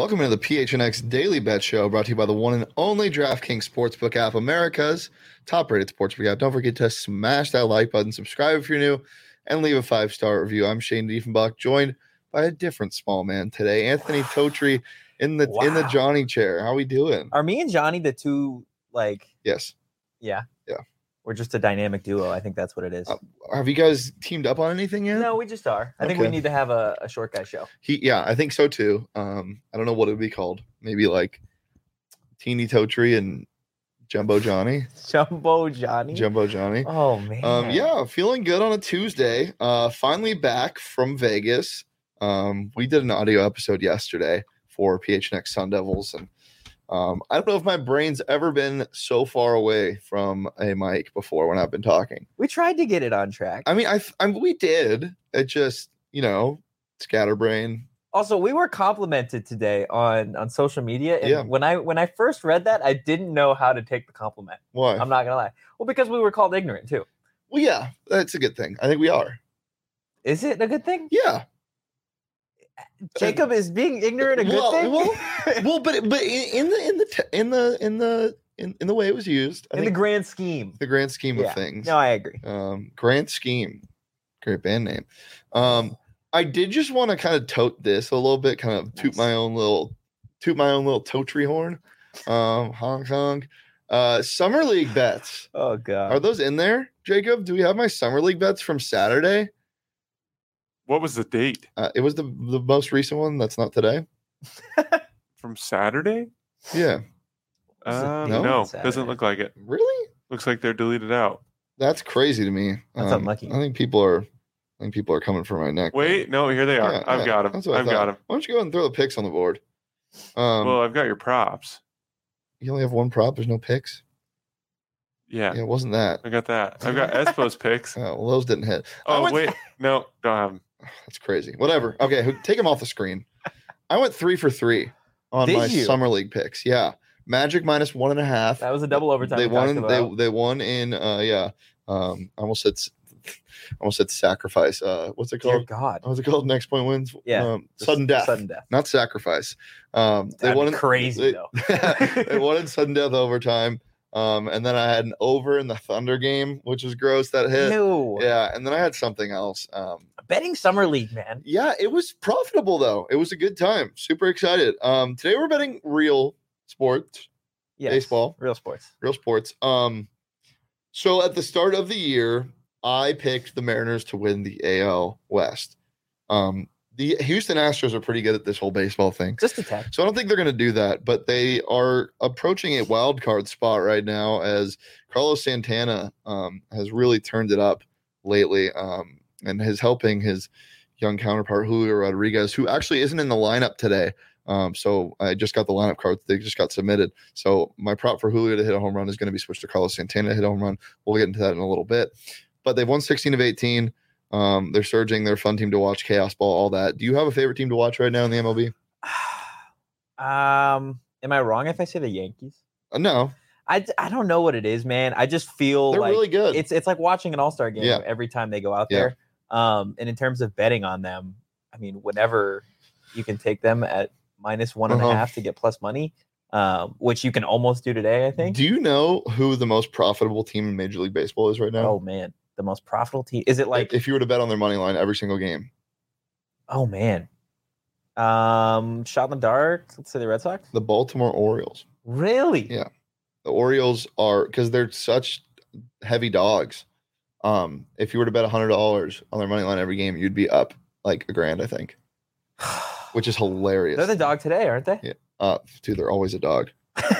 Welcome into the PHNX Daily Bet Show, brought to you by the one and only DraftKings Sportsbook app, America's top-rated sportsbook app. Don't forget to smash that like button, subscribe if you're new, and leave a 5-star review. I'm Shane Diefenbach, joined by a different small man today, Anthony Totri in the Johnny chair. How we doing? Are me and Johnny the two, Yes. Yeah. Yeah. We're just a dynamic duo. I think that's what it is. Have you guys teamed up on anything yet? No, we just are. I think we need to have a short guy show. I think so too. I don't know what it would be called. Maybe like Teeny Totri and Jumbo Johnny. Jumbo Johnny. Oh man. Yeah, feeling good on a Tuesday. Finally back from Vegas. We did an audio episode yesterday for PHNX Sun Devils, and I don't know if my brain's ever been so far away from a mic before when I've been talking. We tried to get it on track. I mean, we did. It just, scatterbrain. Also, we were complimented today on social media, and Yeah. when I first read that, I didn't know how to take the compliment. Why? I'm not gonna lie. Well, because we were called ignorant too. Well, yeah, that's a good thing. I think we are. Is it a good thing? Yeah. Jacob, is being ignorant a good thing? But in the way it was used, in the grand scheme of things. No, I agree. Grand Scheme, great band name. I did just want to kind of tote this a little bit, kind of toot my own little Totri horn. Hong Kong. Summer League bets. Oh god, are those in there, Jacob? Do we have my Summer League bets from Saturday? What was the date? It was the most recent one. That's not today. From Saturday? Yeah. No, doesn't look like it. Really? Looks like they're deleted out. That's crazy to me. That's unlucky. I think people are coming for my neck. Wait, no, here they are. Yeah, I've got them. I've got them. Why don't you go ahead and throw the picks on the board? Well, I've got your props. You only have one prop. There's no picks. Yeah, it wasn't that. I got that. I've got Espo's picks. Oh, well, those didn't hit. Oh, wait. No, don't have them. That's crazy. Whatever. Okay, take them off the screen. I went 3 for 3 on my Summer League picks. Yeah. Magic minus 1.5. That was a double overtime. They won in I almost said sacrifice. What's it called? Dear God. What's it called? Next point wins. Yeah. Sudden death. Sudden death. Not sacrifice. They won crazy though. They won in sudden death overtime. And then I had an over in the Thunder game, which was gross. That hit. No. Yeah. And then I had something else. Betting Summer League, man. Yeah, it was profitable though. It was a good time. Super excited. Today we're betting real sports. Yes. Baseball. Real sports. So at the start of the year, I picked the Mariners to win the AL West. The Houston Astros are pretty good at this whole baseball thing. Just a tad. So I don't think they're going to do that, but they are approaching a wild card spot right now as Carlos Santana has really turned it up lately and is helping his young counterpart, Julio Rodriguez, who actually isn't in the lineup today. So I just got the lineup cards. They just got submitted. So my prop for Julio to hit a home run is going to be switched to Carlos Santana to hit a home run. We'll get into that in a little bit. But they've won 16 of 18. They're surging. They're a fun team to watch. Chaos ball, all that. Do you have a favorite team to watch right now in the MLB? Am I wrong if I say the Yankees? No. I don't know what it is, man. I just feel they're really good. It's like watching an all-star game every time they go out there. And in terms of betting on them, I mean, whenever you can take them at minus 1.5 to get plus money, which you can almost do today, I think. Do you know who the most profitable team in Major League Baseball is right now? Oh man, the most profitable team. Is it like if you were to bet on their money line every single game? Oh man. Shot in the dark. Let's say the Red Sox. The Baltimore Orioles. Really? Yeah. The Orioles are, because they're such heavy dogs. If you were to bet $100 on their money line every game, you'd be up like $1,000, I think. Which is hilarious. They're the dog today, aren't they? Yeah. Dude, they're always a dog.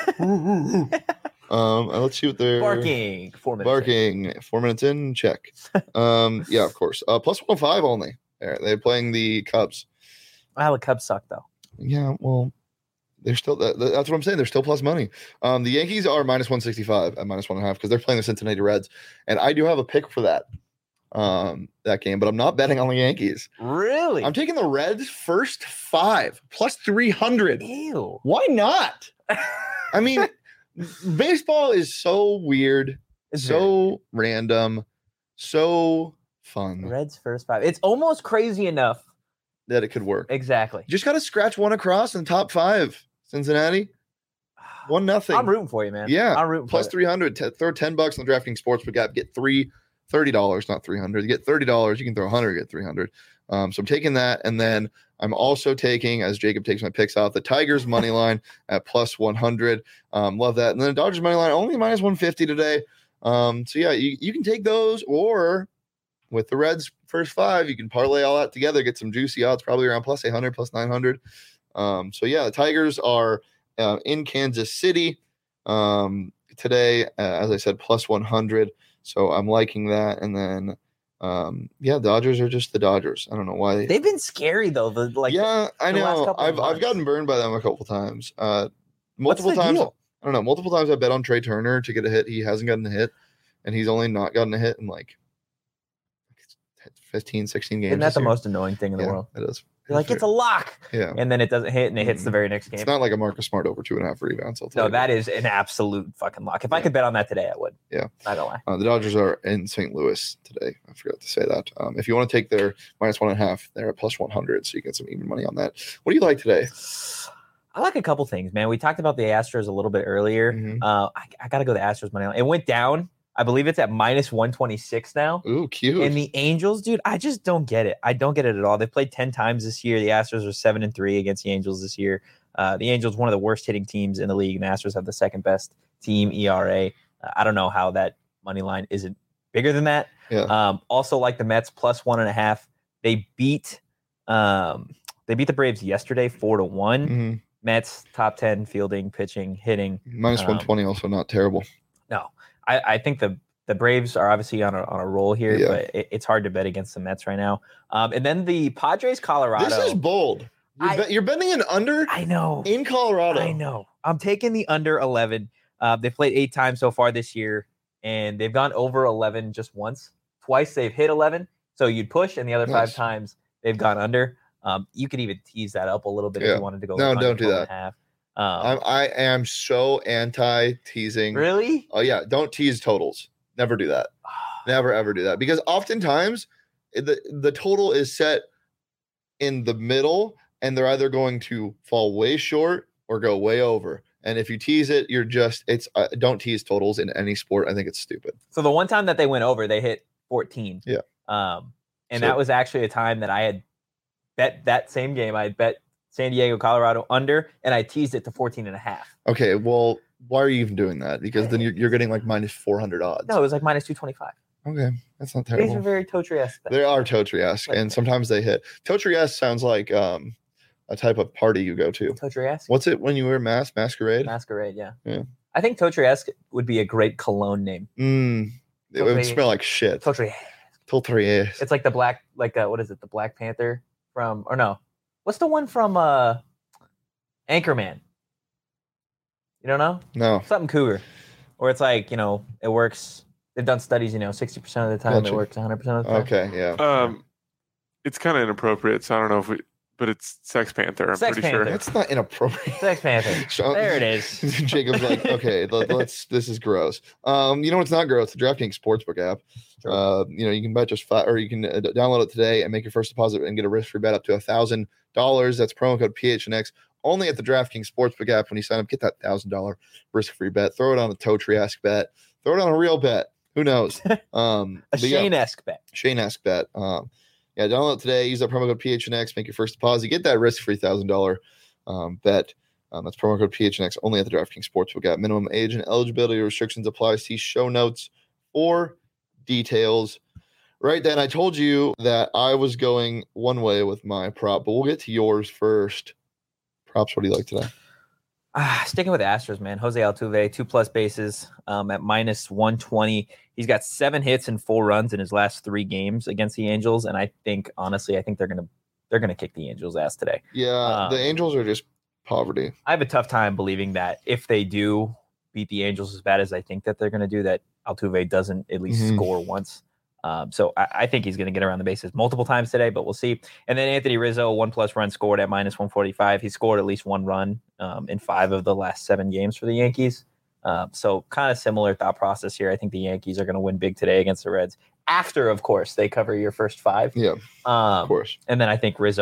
Let's see what they're barking. 4 minutes. 4 minutes in. Check. Yeah, of course. Plus 105 only. They're playing the Cubs. Wow, the Cubs suck though. Yeah, well, they're still. That's what I'm saying. They're still plus money. The Yankees are minus 165 at minus 1.5 because they're playing the Cincinnati Reds, and I do have a pick for that game, but I'm not betting on the Yankees. Really? I'm taking the Reds first 5 plus 300. Ew. Why not? I mean, baseball is so weird, so random, so fun. Reds first 5. It's almost crazy enough that it could work. Exactly. You just got to scratch one across in the top 5. Cincinnati, 1-0. I'm rooting for you, man. Yeah, I'm rooting plus for 300. Throw $10 on the DraftKings Sportsbook app. Get $30, not 300. You get $30. You can throw 100, get 300. So I'm taking that, and then I'm also taking, as Jacob takes my picks off, the Tigers money line at plus 100. Love that, and then the Dodgers money line only minus 150 today. So yeah, you can take those, or with the Reds first 5, you can parlay all that together, get some juicy odds, probably around plus 800, plus 900. So yeah, the Tigers are in Kansas City today, as I said, plus 100. So I'm liking that. And then, Dodgers are just the Dodgers. I don't know why they've been scary though. I know. I've gotten burned by them a couple times. Multiple times. Deal? I don't know. Multiple times I bet on Trey Turner to get a hit. He hasn't gotten a hit, and he's only not gotten a hit in like 15, 16 games. Isn't that the most annoying thing in the world? It is. You're like, it's a lock. Yeah. And then it doesn't hit, and it hits the very next game. It's not like a Marcus Smart over 2.5 rebounds. No, that is an absolute fucking lock. If I could bet on that today, I would. Yeah. Not gonna lie. The Dodgers are in St. Louis today. I forgot to say that. If you want to take their minus 1.5, they're at plus 100, so you get some even money on that. What do you like today? I like a couple things, man. We talked about the Astros a little bit earlier. Mm-hmm. I got to go the Astros money line. It went down. I believe it's at minus 126 now. Ooh, cute. And the Angels, dude, I just don't get it. I don't get it at all. They played 10 times this year. The Astros are 7-3 against the Angels this year. The Angels, one of the worst hitting teams in the league, and the Astros have the second best team ERA. I don't know how that money line isn't bigger than that. Yeah. Also, like the Mets, plus 1.5. They beat the Braves yesterday, 4-1. Mm-hmm. Mets top 10 fielding, pitching, hitting. Minus 120, also not terrible. No. I think the Braves are obviously on a roll here, but it's hard to bet against the Mets right now. And then the Padres, Colorado. This is bold. You're betting an under? I know. In Colorado. I know. I'm taking the under 11. They've played 8 times so far this year, and they've gone over 11 just once. Twice they've hit 11. So you'd push, and the other 5 times they've gone under. You could even tease that up a little bit if you wanted to go. No, don't do that. I am so anti-teasing. Really? Oh, yeah. Don't tease totals. Never do that. Never, ever do that. Because oftentimes the total is set in the middle, and they're either going to fall way short or go way over. And if you tease it, don't tease totals in any sport. I think it's stupid. So the one time that they went over, they hit 14. Yeah. That was actually a time that I had bet that same game. I had bet San Diego, Colorado under, and I teased it to 14.5. Okay, well, why are you even doing that? Because then you're getting like minus 400 odds. No, it was like minus 225. Okay, that's not terrible. These are very Totri-esque. They are Totri-esque, and sometimes they hit. Totri-esque sounds like a type of party you go to. Totri-esque? What's it when you wear masquerade? Masquerade, yeah. Yeah. I think Totri-esque would be a great cologne name. It would smell like shit. Totri-esque. It's like the black, what is it? The Black Panther from, or no. What's the one from Anchorman? You don't know? No. Something cougar. Or it's like, it works. They've done studies, 60% of the time it works 100% of the time. Okay, yeah. It's kind of inappropriate, so I don't know but it's Sex Panther, I'm pretty sure. That's not inappropriate. Sex Panther. There it is. Jacob's like, okay, this is gross. You know what's not gross? The DraftKings Sportsbook app. Sure. You can bet just or you can download it today and make your first deposit and get a risk-free bet up to $1,000. That's promo code PHNX. Only at the DraftKings Sportsbook app. When you sign up, get that $1,000 risk-free bet. Throw it on a Totri-esque bet. Throw it on a real bet. Who knows? A Shane-esque bet. Shane-esque bet. Download it today. Use that promo code PHNX. Make your first deposit. Get that risk-free $1,000 bet. That's promo code PHNX only at the DraftKings Sportsbook app. Minimum age and eligibility restrictions apply. See show notes for details. Right then, I told you that I was going one way with my prop, but we'll get to yours first. Props, what do you like today? Sticking with the Astros, man. Jose Altuve, 2+ bases at minus 120. He's got 7 hits and 4 runs in his last 3 games against the Angels, and I think they're gonna kick the Angels' ass today. Yeah, the Angels are just poverty. I have a tough time believing that if they do beat the Angels as bad as I think that they're gonna do, that Altuve doesn't at least score once. So I think he's going to get around the bases multiple times today, but we'll see. And then Anthony Rizzo, 1+ run scored at minus 145. He scored at least 1 run in 5 of the last 7 games for the Yankees. So kind of similar thought process here. I think the Yankees are going to win big today against the Reds after, of course, they cover your first 5. Yeah, of course. And then I think Rizzo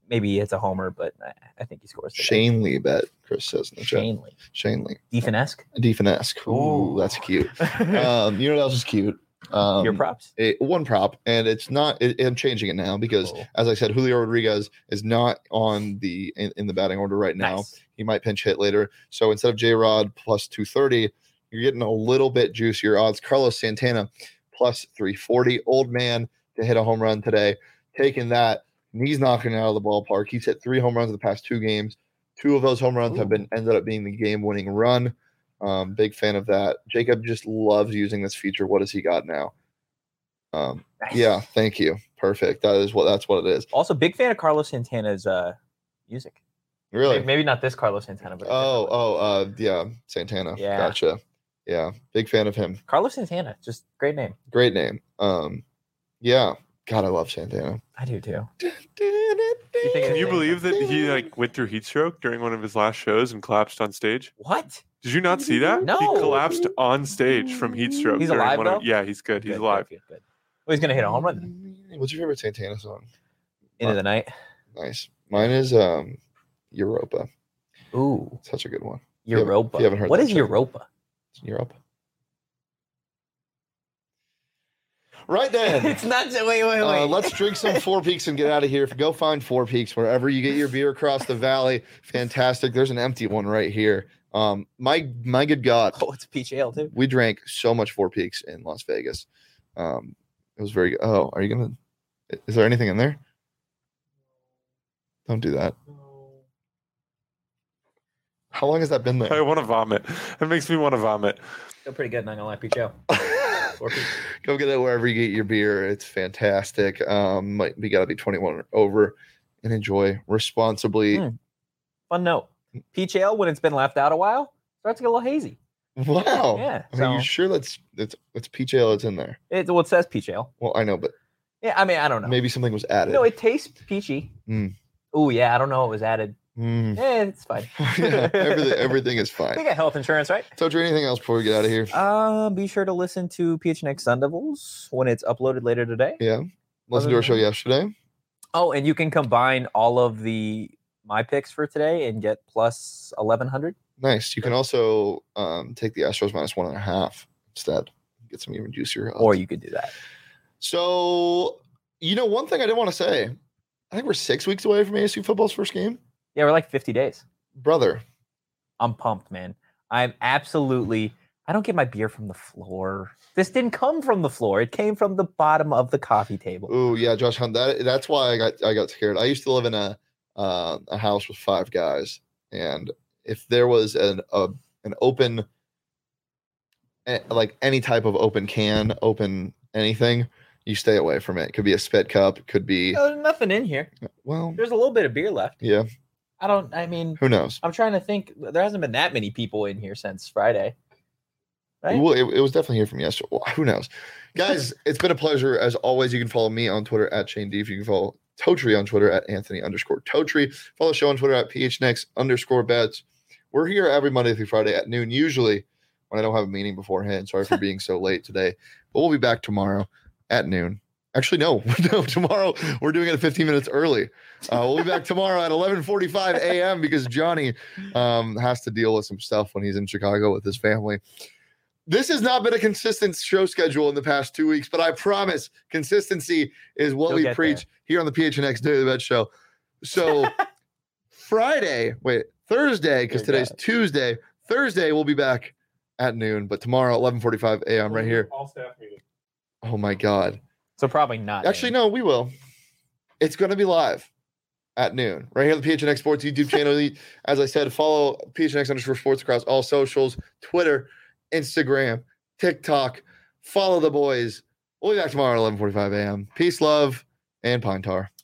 maybe it's a homer, but I think he scores today. Shane Lee bet, Chris says in the chat. Shane Lee. Lee. Deefenesque. Ooh, that's cute. You know what else is cute? Your props? One prop, and it's not. I'm changing it now because, as I said, Julio Rodriguez is not on in the batting order right now. Nice. He might pinch hit later. So instead of J-Rod plus 230, you're getting a little bit juicier odds. Carlos Santana plus 340. Old man to hit a home run today. Taking that, he's knocking it out of the ballpark. He's hit 3 home runs in the past 2 games. 2 of those home runs ended up being the game-winning run. Big fan of that. Jacob just loves using this feature. What has he got now? Nice. Yeah, thank you. Perfect. That's what it is. Also, big fan of Carlos Santana's music. Really? Maybe not this Carlos Santana, but yeah, Santana. Yeah. Gotcha. Yeah, big fan of him. Carlos Santana, just great name. Great name. Yeah. God, I love Santana. I do too. Can you believe that he went through heat stroke during one of his last shows and collapsed on stage? What? Did you not see that? No. He collapsed on stage from heat stroke. He's alive, though? Yeah, he's good. He's alive. Good. Well, he's going to hit a home run then. What's your favorite Santana song? Into the Night. Nice. Mine is Europa. Ooh. Such a good one. Europa. If you haven't heard what that, is Europa? It's Europe. Right then. It's not. Wait. Let's drink some Four Peaks and get out of here. Go find Four Peaks wherever you get your beer across the valley. Fantastic. There's an empty one right here. My good God. Oh, it's peach ale too. We drank so much Four Peaks in Las Vegas. It was very good. Oh, are you gonna? Is there anything in there? Don't do that. How long has that been there? I want to vomit. It makes me want to vomit. Feel pretty good. Not gonna lie, peach ale. Go get it wherever you get your beer. It's fantastic. We gotta be 21 or over and enjoy responsibly. Fun note: peach ale, when it's been left out a while, starts to get a little hazy. Wow. Yeah. Are you sure it's peach ale that's in there? It says peach ale. Well, I know, but yeah, I mean, I don't know. Maybe something was added. No, it tastes peachy. Oh yeah, I don't know what was added. Yeah, it's fine. Yeah, everything is fine. We got health insurance, right? Totri, anything else before we get out of here? Be sure to listen to PHNX Sun Devils when it's uploaded later today. Yeah. Listen to our show yesterday. Oh, and you can combine all of my picks for today and get plus 1,100. Nice. You can also take the Astros minus 1.5 instead. Get some even juicier odds. Or you could do that. So, one thing I didn't want to say. I think we're 6 weeks away from ASU football's first game. Yeah, we're like 50 days. Brother. I'm pumped, man. I don't get my beer from the floor. This didn't come from the floor. It came from the bottom of the coffee table. Oh, yeah, Josh Hunt. That's why I got scared. I used to live in a house with 5 guys. And if there was an open, like any type of open can, open anything, you stay away from it. It could be a spit cup. It could be. There's nothing in here. Well, there's a little bit of beer left. Yeah. Who knows? I'm trying to think. There hasn't been that many people in here since Friday. Right? Well, it was definitely here from yesterday. Well, who knows? Guys, it's been a pleasure. As always, you can follow me on Twitter at Shane Deef. You can follow Totri on Twitter at Anthony_Totri. Follow the show on Twitter at PHNX_bets. We're here every Monday through Friday at noon, usually when I don't have a meeting beforehand. Sorry for being so late today. But we'll be back tomorrow at noon. Actually, no, tomorrow we're doing it 15 minutes early. We'll be back tomorrow at 11:45 a.m. because Johnny has to deal with some stuff when he's in Chicago with his family. This has not been a consistent show schedule in the past 2 weeks, but I promise consistency is what we preach here on the PHNX Daily Bet Show. So Thursday, because today's Tuesday. Thursday, we'll be back at noon, but tomorrow, 11:45 a.m. right here. All staff meeting. Oh, my God. So probably not. Actually, no, we will. It's going to be live at noon right here on the PHNX Sports YouTube channel. As I said, follow PHNX_sports across all socials, Twitter, Instagram, TikTok. Follow the boys. We'll be back tomorrow at 11:45 a.m. Peace, love, and Pine Tar.